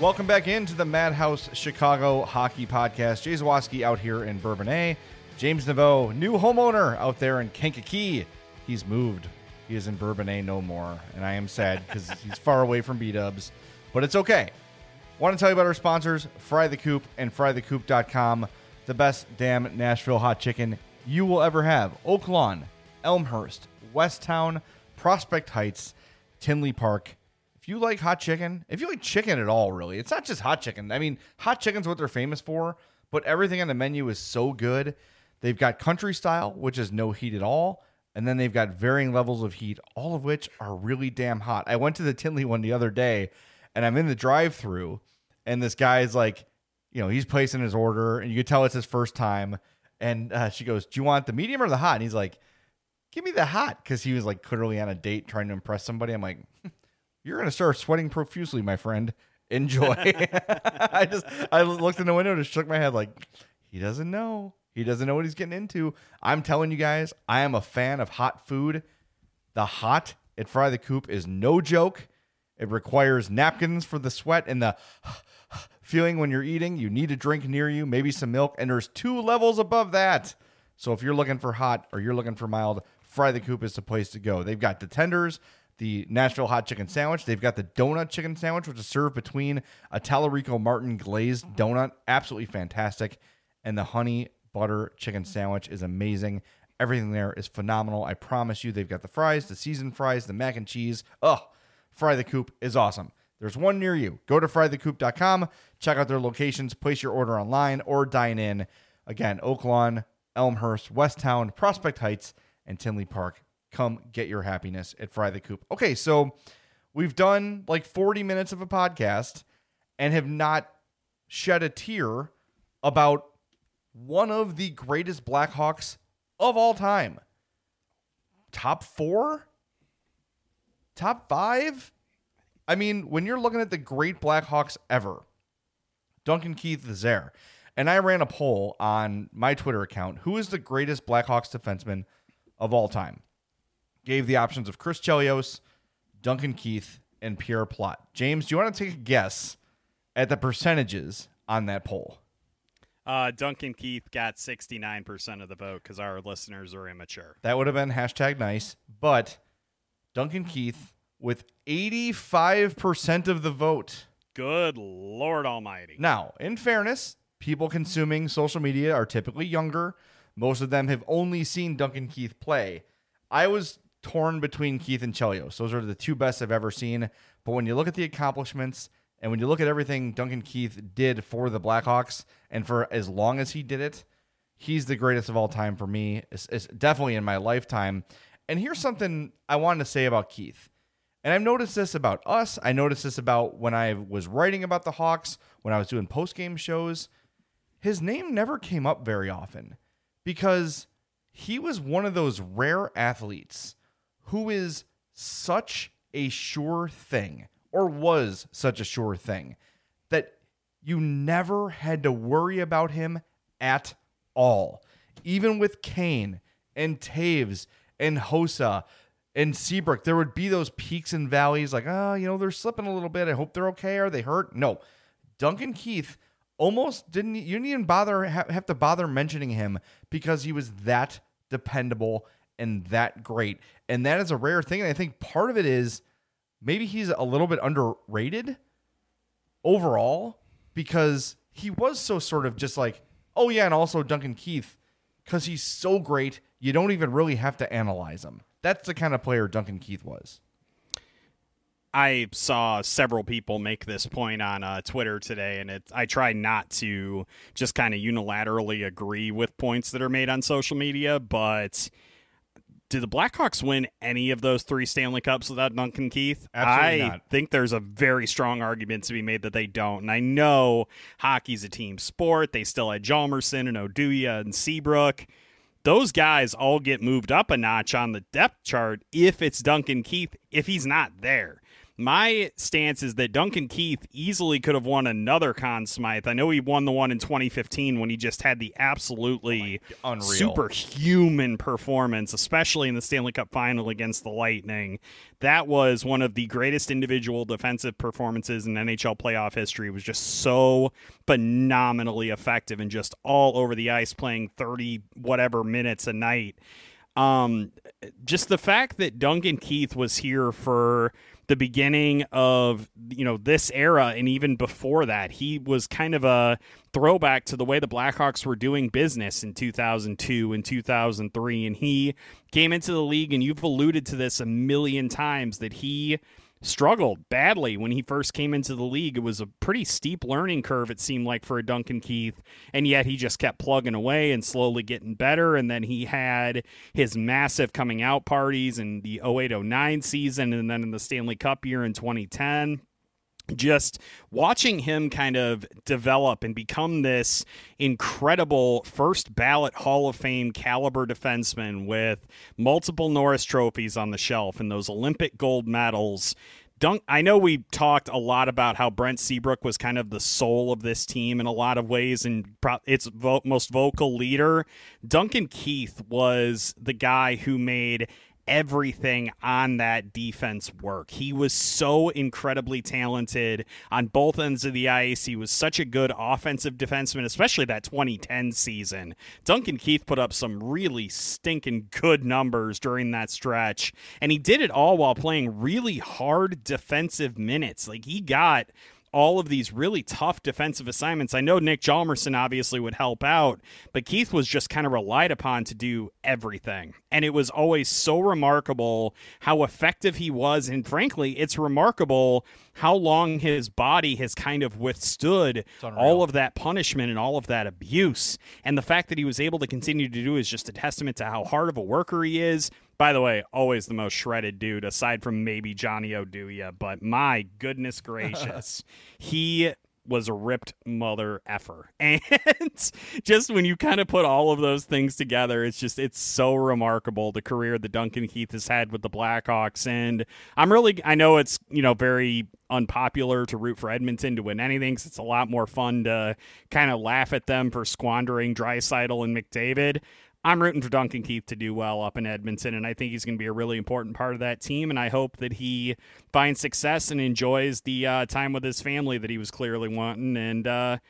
Welcome back into the Madhouse Chicago Hockey Podcast. Jay Zawaski out here in Bourbonnais. James Naveau, new homeowner out there in Kankakee. He's moved. He is in Bourbonnais no more, and I am sad because he's far away from B-dubs, but it's okay. Want to tell you about our sponsors, Fry the Coop and frythecoop.com, the best damn Nashville hot chicken you will ever have. Oak Lawn, Elmhurst, Westtown, Prospect Heights, Tinley Park. If you like hot chicken, if you like chicken at all, really, it's not just hot chicken. I mean, hot chicken's what they're famous for, but everything on the menu is so good. They've got country style, which is no heat at all, and then they've got varying levels of heat, all of which are really damn hot. I went to the Tinley one the other day, and I'm in the drive-thru, and this guy's like, he's placing his order, and you can tell it's his first time, and she goes, "Do you want the medium or the hot?" And he's like, "Give me the hot," because he was like clearly on a date trying to impress somebody. I'm like, "You're going to start sweating profusely, my friend. Enjoy." I looked in the window and just shook my head like, he doesn't know. He doesn't know what he's getting into. I'm telling you guys, I am a fan of hot food. The hot at Fry the Coop is no joke. It requires napkins for the sweat and the feeling when you're eating. You need a drink near you, maybe some milk, and there's 2 levels above that. So if you're looking for hot or you're looking for mild, Fry the Coop is the place to go. They've got the tenders, the Nashville hot chicken sandwich. They've got the donut chicken sandwich, which is served between a Tallarico Martin glazed donut. Absolutely fantastic. And the honey butter chicken sandwich is amazing. Everything there is phenomenal. I promise you, they've got the fries, the seasoned fries, the mac and cheese. Fry the Coop is awesome. There's one near you. Go to frythecoop.com, check out their locations, place your order online, or dine in. Again, Oak Lawn, Elmhurst, Westtown, Prospect Heights, and Tinley Park. Come get your happiness at Fry the Coop. Okay, so we've done like 40 minutes of a podcast and have not shed a tear about one of the greatest Blackhawks of all time. Top 4? Top 5? I mean, when you're looking at the great Blackhawks ever, Duncan Keith is there. And I ran a poll on my Twitter account. Who is the greatest Blackhawks defenseman of all time? Gave the options of Chris Chelios, Duncan Keith, and Pierre Plot. James, do you want to take a guess at the percentages on that poll? Duncan Keith got 69% of the vote because our listeners are immature. That would have been #nice, but Duncan Keith with 85% of the vote. Good Lord Almighty. Now, in fairness, people consuming social media are typically younger. Most of them have only seen Duncan Keith play. I was torn between Keith and Chelios. Those are the 2 best I've ever seen. But when you look at the accomplishments and when you look at everything Duncan Keith did for the Blackhawks and for as long as he did it, he's the greatest of all time for me. It's definitely in my lifetime. And here's something I wanted to say about Keith. And I've noticed this about us. I noticed this about when I was writing about the Hawks, when I was doing post-game shows. His name never came up very often because he was one of those rare athletes who is such a sure thing, or was such a sure thing, that you never had to worry about him at all. Even with Kane and Taves and Hossa and Seabrook, there would be those peaks and valleys like, they're slipping a little bit. I hope they're okay. Are they hurt? No. Duncan Keith almost you didn't even have to bother mentioning him because he was that dependable and that great. And that is a rare thing. And I think part of it is maybe he's a little bit underrated overall because he was so sort of just like, oh yeah, and also Duncan Keith, because he's so great, you don't even really have to analyze him. That's the kind of player Duncan Keith was. I saw several people make this point on Twitter today, and I try not to just kind of unilaterally agree with points that are made on social media, but did the Blackhawks win any of those 3 Stanley Cups without Duncan Keith? Absolutely not. I think there's a very strong argument to be made that they don't, and I know hockey's a team sport. They still had Hjalmarsson and Oduya and Seabrook. Those guys all get moved up a notch on the depth chart if it's Duncan Keith, if he's not there. My stance is that Duncan Keith easily could have won another Conn Smythe. I know he won the one in 2015 when he just had the absolutely unreal, superhuman performance, especially in the Stanley Cup final against the Lightning. That was one of the greatest individual defensive performances in NHL playoff history. It was just so phenomenally effective and just all over the ice, playing 30 whatever minutes a night. Just the fact that Duncan Keith was here for the beginning of, this era, and even before that, he was kind of a throwback to the way the Blackhawks were doing business in 2002 and 2003. And he came into the league, and you've alluded to this a million times, that he struggled badly when he first came into the league. It was a pretty steep learning curve, it seemed like, for a Duncan Keith, and yet he just kept plugging away and slowly getting better. And then he had his massive coming out parties in the 08-09 season, and then in the Stanley Cup year in 2010. Just watching him kind of develop and become this incredible first ballot Hall of Fame caliber defenseman with multiple Norris trophies on the shelf and those Olympic gold medals. I know we talked a lot about how Brent Seabrook was kind of the soul of this team in a lot of ways and its most vocal leader. Duncan Keith was the guy who made everything on that defense work. He was so incredibly talented on both ends of the ice. He was such a good offensive defenseman, especially that 2010 season. Duncan Keith put up some really stinking good numbers during that stretch, and he did it all while playing really hard defensive minutes. Like, he got all of these really tough defensive assignments. I know Nick Hjalmarsson obviously would help out, but Keith was just kind of relied upon to do everything. And it was always so remarkable how effective he was. And frankly, it's remarkable how long his body has kind of withstood all of that punishment and all of that abuse. And the fact that he was able to continue to do is just a testament to how hard of a worker he is. By the way, always the most shredded dude, aside from maybe Johnny Oduya. But my goodness gracious, he was a ripped mother effer. And just when you kind of put all of those things together, it's so remarkable, the career that Duncan Keith has had with the Blackhawks. And I know it's, very unpopular to root for Edmonton to win anything, because it's a lot more fun to kind of laugh at them for squandering Draisaitl and McDavid. I'm rooting for Duncan Keith to do well up in Edmonton, and I think he's going to be a really important part of that team, and I hope that he finds success and enjoys the time with his family that he was clearly wanting. And,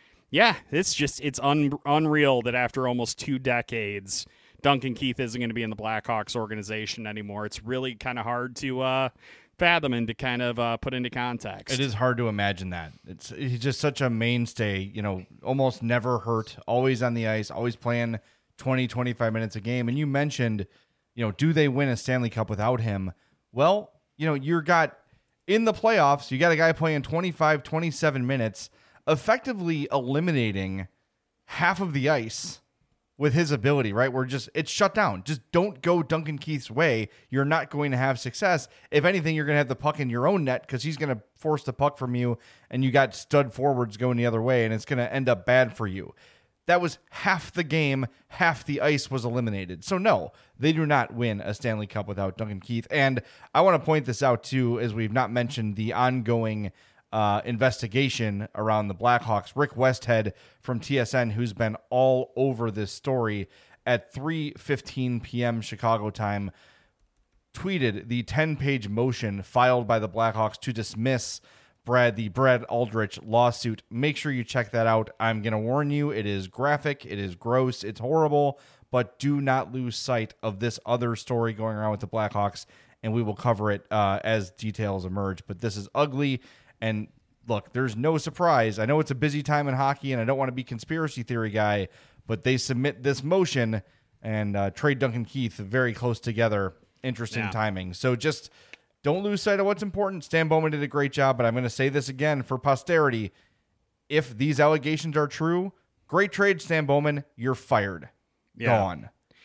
it's unreal that after almost 2 decades, Duncan Keith isn't going to be in the Blackhawks organization anymore. It's really kind of hard to fathom and to kind of put into context. It is hard to imagine that. He's just such a mainstay, almost never hurt, always on the ice, always playing 20, 25 minutes a game. And you mentioned, do they win a Stanley Cup without him? Well, you're got in the playoffs, you got a guy playing 25, 27 minutes, effectively eliminating half of the ice with his ability, right? It's shut down. Just don't go Duncan Keith's way. You're not going to have success. If anything, you're going to have the puck in your own net because he's going to force the puck from you, and you got stud forwards going the other way, and it's going to end up bad for you. That was half the game, half the ice was eliminated. So no, they do not win a Stanley Cup without Duncan Keith. And I want to point this out too, as we've not mentioned the ongoing investigation around the Blackhawks. Rick Westhead from TSN, who's been all over this story, at 3:15 p.m. Chicago time, tweeted the 10-page motion filed by the Blackhawks to dismiss the Brad Aldrich lawsuit. Make sure you check that out. I'm going to warn you, it is graphic, it is gross, it's horrible, but do not lose sight of this other story going around with the Blackhawks, and we will cover it as details emerge. But this is ugly, and look, there's no surprise. I know it's a busy time in hockey, and I don't want to be conspiracy theory guy, but they submit this motion and trade Duncan Keith very close together. Interesting timing. So just don't lose sight of what's important. Stan Bowman did a great job, but I'm going to say this again for posterity. If these allegations are true, great trade, Stan Bowman. You're fired. Gone.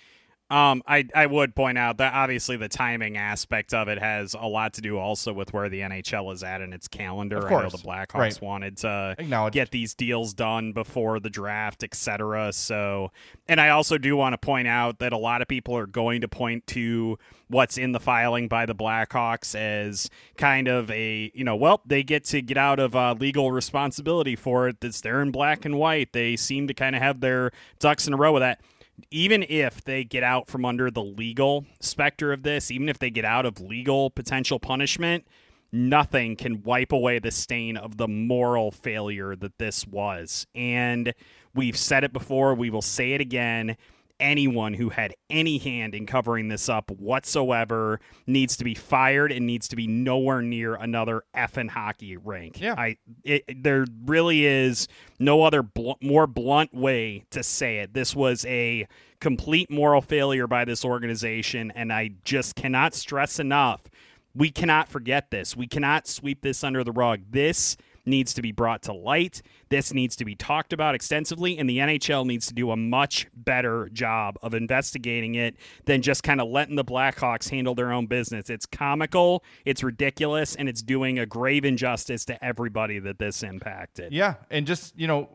I would point out that obviously the timing aspect of it has a lot to do also with where the NHL is at in its calendar. Of course. I know the Blackhawks wanted to get these deals done before the draft, etc. So, and I also do want to point out that a lot of people are going to point to what's in the filing by the Blackhawks as kind of a, they get to get out of legal responsibility for it. It's there in black and white. They seem to kind of have their ducks in a row with that. Even if they get out from under the legal specter of this, even if they get out of legal potential punishment, nothing can wipe away the stain of the moral failure that this was. And we've said it before, we will say it again. Anyone who had any hand in covering this up whatsoever needs to be fired and needs to be nowhere near another effing hockey rink. Yeah. There really is no other more blunt way to say it. This was a complete moral failure by this organization, and I just cannot stress enough, we cannot forget this. We cannot sweep this under the rug. This needs to be brought to light. This needs to be talked about extensively, and the NHL needs to do a much better job of investigating it than just kind of letting the Blackhawks handle their own business. It's comical, it's ridiculous, and it's doing a grave injustice to everybody that this impacted. Yeah, and just,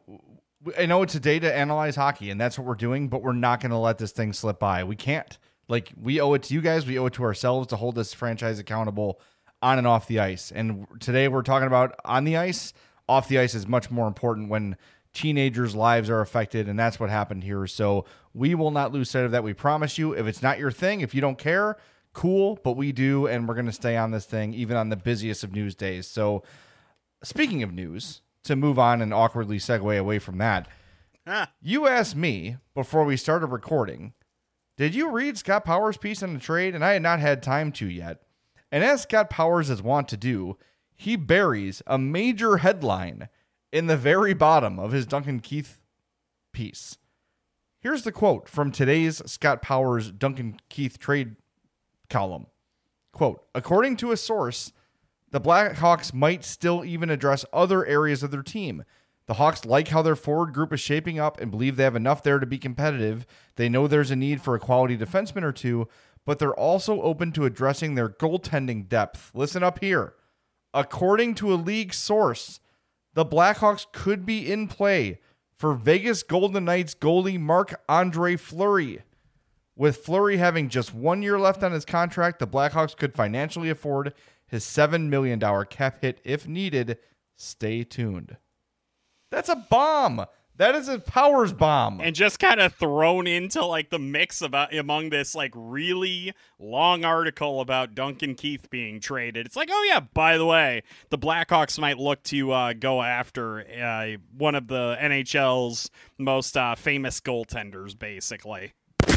I know it's a day to analyze hockey, and that's what we're doing, but we're not going to let this thing slip by. We can't. We owe it to you guys. We owe it to ourselves to hold this franchise accountable on and off the ice. And today we're talking about on the ice. Off the ice is much more important when teenagers' lives are affected, and that's what happened here. So we will not lose sight of that. We promise you. If it's not your thing, if you don't care, cool, but we do, and we're going to stay on this thing even on the busiest of news days. So speaking of news, to move on and awkwardly segue away from that, you asked me before we started recording, did you read Scott Powers' piece on the trade? And I had not had time to yet. And as Scott Powers is wont to do, he buries a major headline in the very bottom of his Duncan Keith piece. Here's the quote from today's Scott Powers Duncan Keith trade column. Quote, according to a source, the Blackhawks might still even address other areas of their team. The Hawks like how their forward group is shaping up and believe they have enough there to be competitive. They know there's a need for a quality defenseman or two, but they're also open to addressing their goaltending depth. Listen up here. According to a league source, the Blackhawks could be in play for Vegas Golden Knights goalie Marc-Andre Fleury. With Fleury having just 1 year left on his contract, the Blackhawks could financially afford his $7 million cap hit if needed. Stay tuned. That's a bomb. That is a Powers bomb. And just kind of thrown into the mix among this really long article about Duncan Keith being traded. It's oh yeah, by the way, the Blackhawks might look to go after one of the NHL's most famous goaltenders, basically.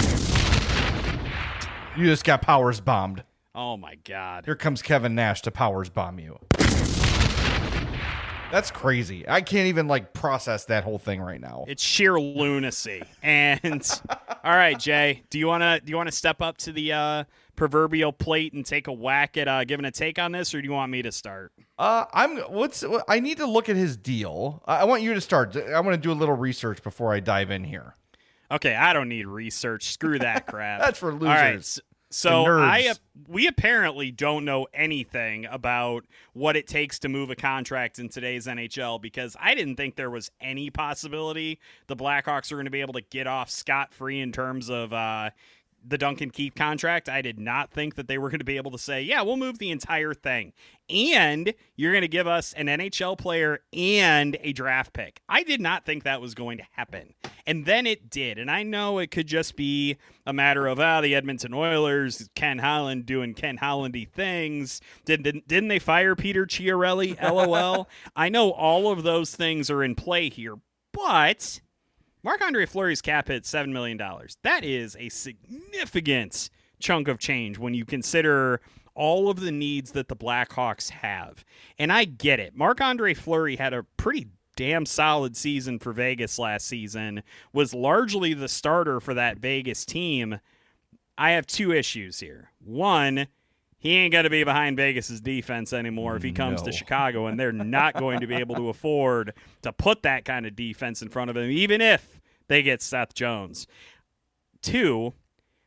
You just got Powers bombed. Oh my God. Here comes Kevin Nash to Powers bomb you. That's crazy. I can't even process that whole thing right now. It's sheer lunacy. And all right, Jay, do you want to step up to the proverbial plate and take a whack at giving a take on this, or do you want me to start? I need to look at his deal. I want you to start. I want to do a little research before I dive in here. Okay, I don't need research. Screw that crap. That's for losers. All right. So we apparently don't know anything about what it takes to move a contract in today's NHL, because I didn't think there was any possibility the Blackhawks are going to be able to get off scot-free in terms of the Duncan Keith contract. I did not think that they were going to be able to say, yeah, we'll move the entire thing, and you're going to give us an NHL player and a draft pick. I did not think that was going to happen. And then it did. And I know it could just be a matter of, the Edmonton Oilers, Ken Holland doing Ken Hollandy things. Didn't they fire Peter Chiarelli? LOL. I know all of those things are in play here, but Marc-Andre Fleury's cap hit $7 million. That is a significant chunk of change when you consider all of the needs that the Blackhawks have. And I get it. Marc-Andre Fleury had a pretty damn solid season for Vegas last season, was largely the starter for that Vegas team. I have two issues here. One, he ain't got to be behind Vegas's defense anymore if he comes to Chicago, and they're not going to be able to afford to put that kind of defense in front of him, even if they get Seth Jones. Two,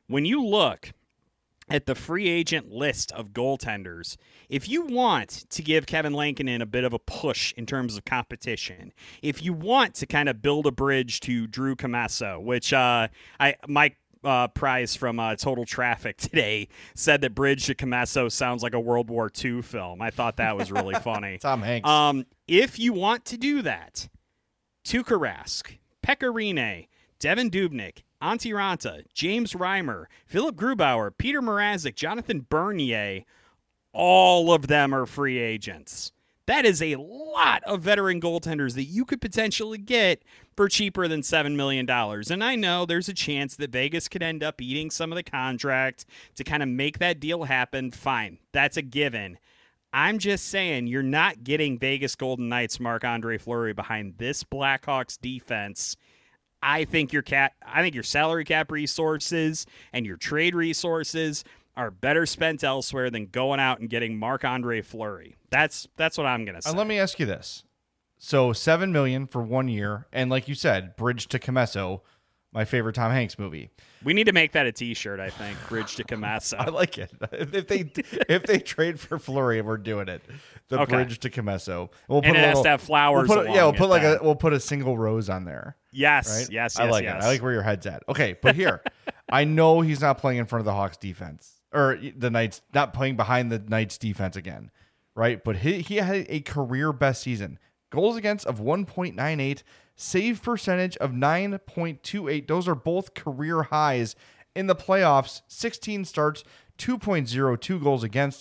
when you look at the free agent list of goaltenders, if you want to give Kevin Lankinen a bit of a push in terms of competition, if you want to kind of build a bridge to Drew Commesso, which Mike Price from Total Traffic today said that Bridge to Commesso sounds like a World War II film. I thought that was really funny. Tom Hanks. If you want to do that, Tuukka Rask, Pekka Rinne, Devin Dubnyk, Antti Ranta, James Reimer, Philip Grubauer, Peter Mrazek, Jonathan Bernier, all of them are free agents. That is a lot of veteran goaltenders that you could potentially get for cheaper than $7 million. And I know there's a chance that Vegas could end up eating some of the contract to kind of make that deal happen. Fine. That's a given. I'm just saying you're not getting Vegas Golden Knights Marc-Andre Fleury behind this Blackhawks defense. I think your salary cap resources and your trade resources are better spent elsewhere than going out and getting Marc-Andre Fleury. That's what I'm going to say. And let me ask you this. So $7 million for 1 year, and like you said, Bridge to Commesso, my favorite Tom Hanks movie. We need to make that a T-shirt, I think. Bridge to Commesso. I like it. If they trade for Fleury, we're doing it. The Bridge to Commesso. We'll put has to have flowers. We'll put a single rose on there. Yes, right? yes. I like it. I like where your head's at. Okay, but here, I know he's not playing in front of the Hawks defense or the Knights, not playing behind the Knights defense again, right? But he had a career best season. Goals against of 1.98, save percentage of 9.28. Those are both career highs in the playoffs. 16 starts, 2.02 goals against,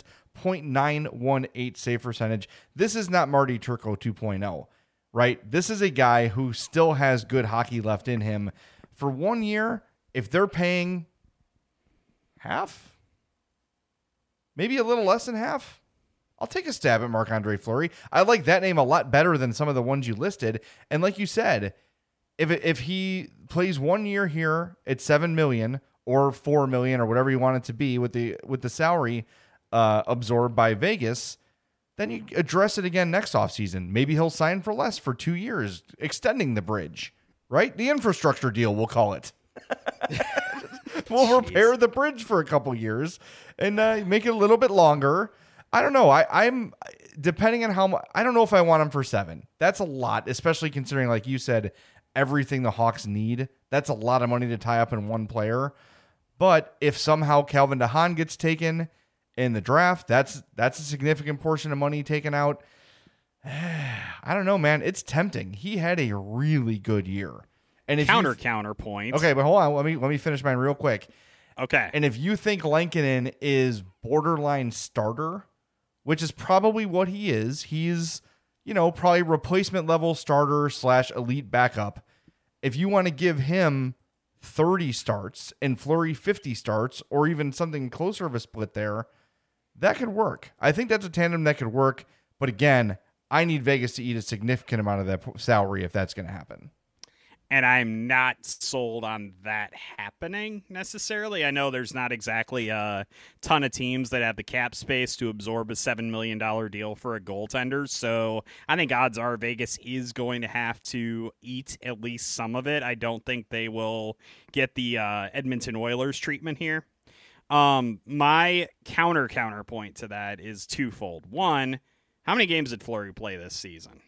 0.918 save percentage. This is not Marty Turco 2.0, right? This is a guy who still has good hockey left in him. For 1 year, if they're paying half, maybe a little less than half, I'll take a stab at Marc-Andre Fleury. I like that name a lot better than some of the ones you listed. And like you said, if he plays 1 year here at $7 million or $4 million or whatever you want it to be with the salary absorbed by Vegas, then you address it again next offseason. Maybe he'll sign for less for 2 years, extending the bridge, right? The infrastructure deal, we'll call it. We'll repair the bridge for a couple years and make it a little bit longer. I don't know. I'm depending on how much. I don't know if I want him for 7. That's a lot, especially considering, like you said, everything the Hawks need. That's a lot of money to tie up in one player. But if somehow Calvin DeHaan gets taken in the draft, that's a significant portion of money taken out. I don't know, man. It's tempting. He had a really good year. And if counterpoint. Okay, but hold on. Let me finish mine real quick. Okay. And if you think Lankinen is borderline starter, which is probably what he is, he's, probably replacement level starter / elite backup. If you want to give him 30 starts and Fleury 50 starts, or even something closer of a split there, that could work. I think that's a tandem that could work. But again, I need Vegas to eat a significant amount of that salary if that's going to happen. And I'm not sold on that happening necessarily. I know there's not exactly a ton of teams that have the cap space to absorb a $7 million deal for a goaltender. So I think odds are Vegas is going to have to eat at least some of it. I don't think they will get the Edmonton Oilers treatment here. My counterpoint to that is twofold. One, how many games did Fleury play this season?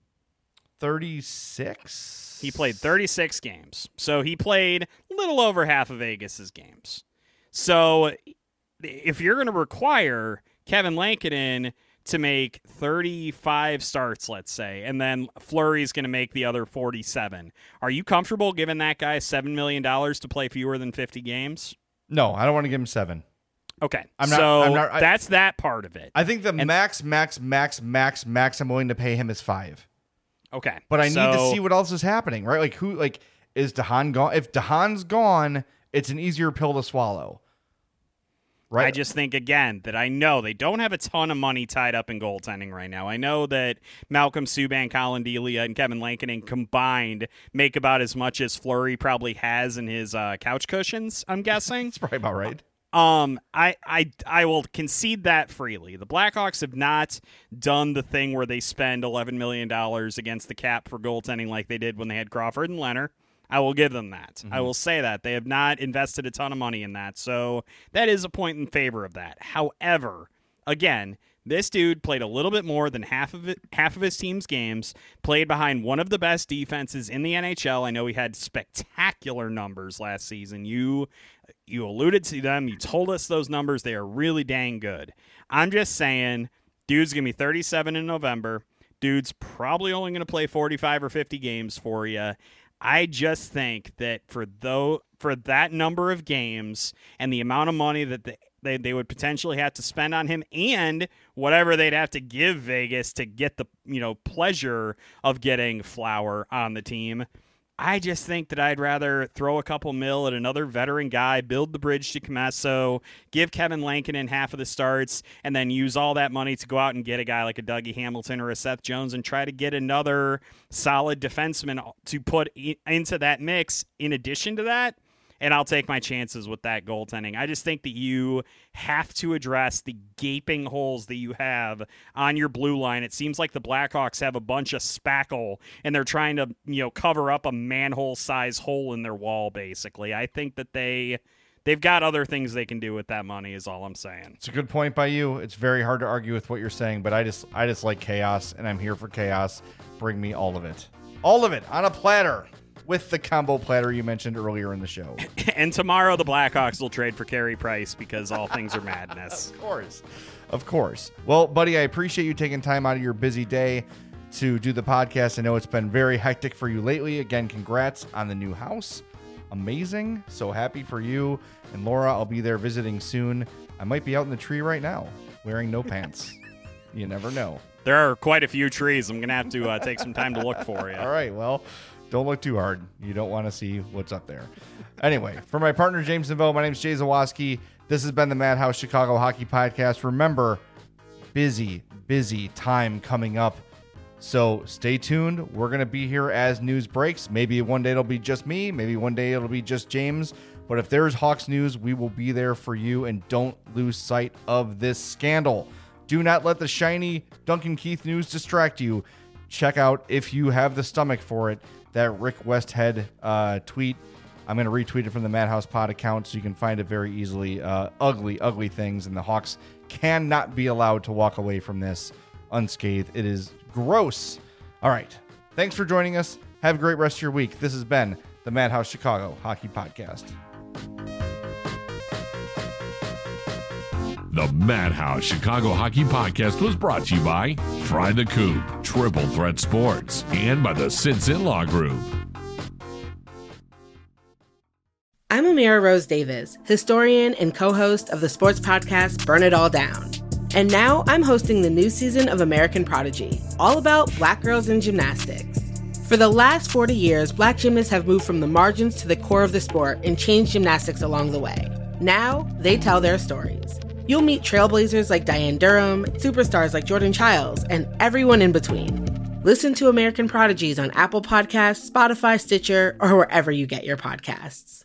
36. He played 36 games. So he played a little over half of Vegas's games. So if you're going to require Kevin Lankinen to make 35 starts, let's say, and then Fleury's going to make the other 47, are you comfortable giving that guy $7 million to play fewer than 50 games? No, I don't want to give him 7. Okay, that's that part of it. I think the max I'm willing to pay him is 5. Okay. But I need to see what else is happening, right? Is DeHaan gone? If DeHaan's gone, it's an easier pill to swallow. Right? I just think, again, that I know they don't have a ton of money tied up in goaltending right now. I know that Malcolm Subban, Colin Delia, and Kevin Lankinen combined make about as much as Fleury probably has in his couch cushions, I'm guessing. That's probably about right. I will concede that freely. The Blackhawks have not done the thing where they spend $11 million against the cap for goaltending like they did when they had Crawford and Leonard. I will give them that. I will say that. They have not invested a ton of money in that, so that is a point in favor of that. However, again, this dude played a little bit more than half of his team's games, played behind one of the best defenses in the NHL. I know he had spectacular numbers last season. You alluded to them. You told us those numbers. They are really dang good. I'm just saying, dude's going to be 37 in November. Dude's probably only going to play 45 or 50 games for you. I just think that for that number of games and the amount of money that they would potentially have to spend on him and whatever they'd have to give Vegas to get the pleasure of getting Flower on the team, I just think that I'd rather throw a couple mil at another veteran guy, build the bridge to Comesso, give Kevin Lankinen half of the starts, and then use all that money to go out and get a guy like a Dougie Hamilton or a Seth Jones and try to get another solid defenseman to put into that mix in addition to that. And I'll take my chances with that goaltending. I just think that you have to address the gaping holes that you have on your blue line. It seems like the Blackhawks have a bunch of spackle, and they're trying to, cover up a manhole-size hole in their wall, basically. I think that they've got other things they can do with that money is all I'm saying. It's a good point by you. It's very hard to argue with what you're saying, but I just like chaos, and I'm here for chaos. Bring me all of it. All of it on a platter. With the combo platter you mentioned earlier in the show. And tomorrow the Blackhawks will trade for Carey Price because all things are madness. Of course. Well, buddy, I appreciate you taking time out of your busy day to do the podcast. I know it's been very hectic for you lately. Again, congrats on the new house. Amazing. So happy for you. And Laura, I'll be there visiting soon. I might be out in the tree right now wearing no pants. You never know. There are quite a few trees. I'm going to have to take some time to look for you. All right. Well, don't look too hard. You don't want to see what's up there. Anyway, for my partner, James Neveau, my name is Jay Zawaski. This has been the Madhouse Chicago Hockey Podcast. Remember, busy time coming up. So stay tuned. We're going to be here as news breaks. Maybe one day it'll be just me. Maybe one day it'll be just James. But if there's Hawks news, we will be there for you. And don't lose sight of this scandal. Do not let the shiny Duncan Keith news distract you. Check out, if you have the stomach for it, that Rick Westhead tweet. I'm going to retweet it from the Madhouse Pod account so you can find it very easily. Ugly things, and the Hawks cannot be allowed to walk away from this unscathed. It is gross. All right. Thanks for joining us. Have a great rest of your week. This has been the Madhouse Chicago Hockey Podcast. The Madhouse Chicago Hockey Podcast was brought to you by Fry the Coop, Triple Threat Sports, and by the Sinson Law Group. I'm Amira Rose Davis, historian and co-host of the sports podcast Burn It All Down. And now I'm hosting the new season of American Prodigy, all about Black girls in gymnastics. For the last 40 years, Black gymnasts have moved from the margins to the core of the sport and changed gymnastics along the way. Now, they tell their stories. You'll meet trailblazers like Diane Durham, superstars like Jordan Childs, and everyone in between. Listen to American Prodigies on Apple Podcasts, Spotify, Stitcher, or wherever you get your podcasts.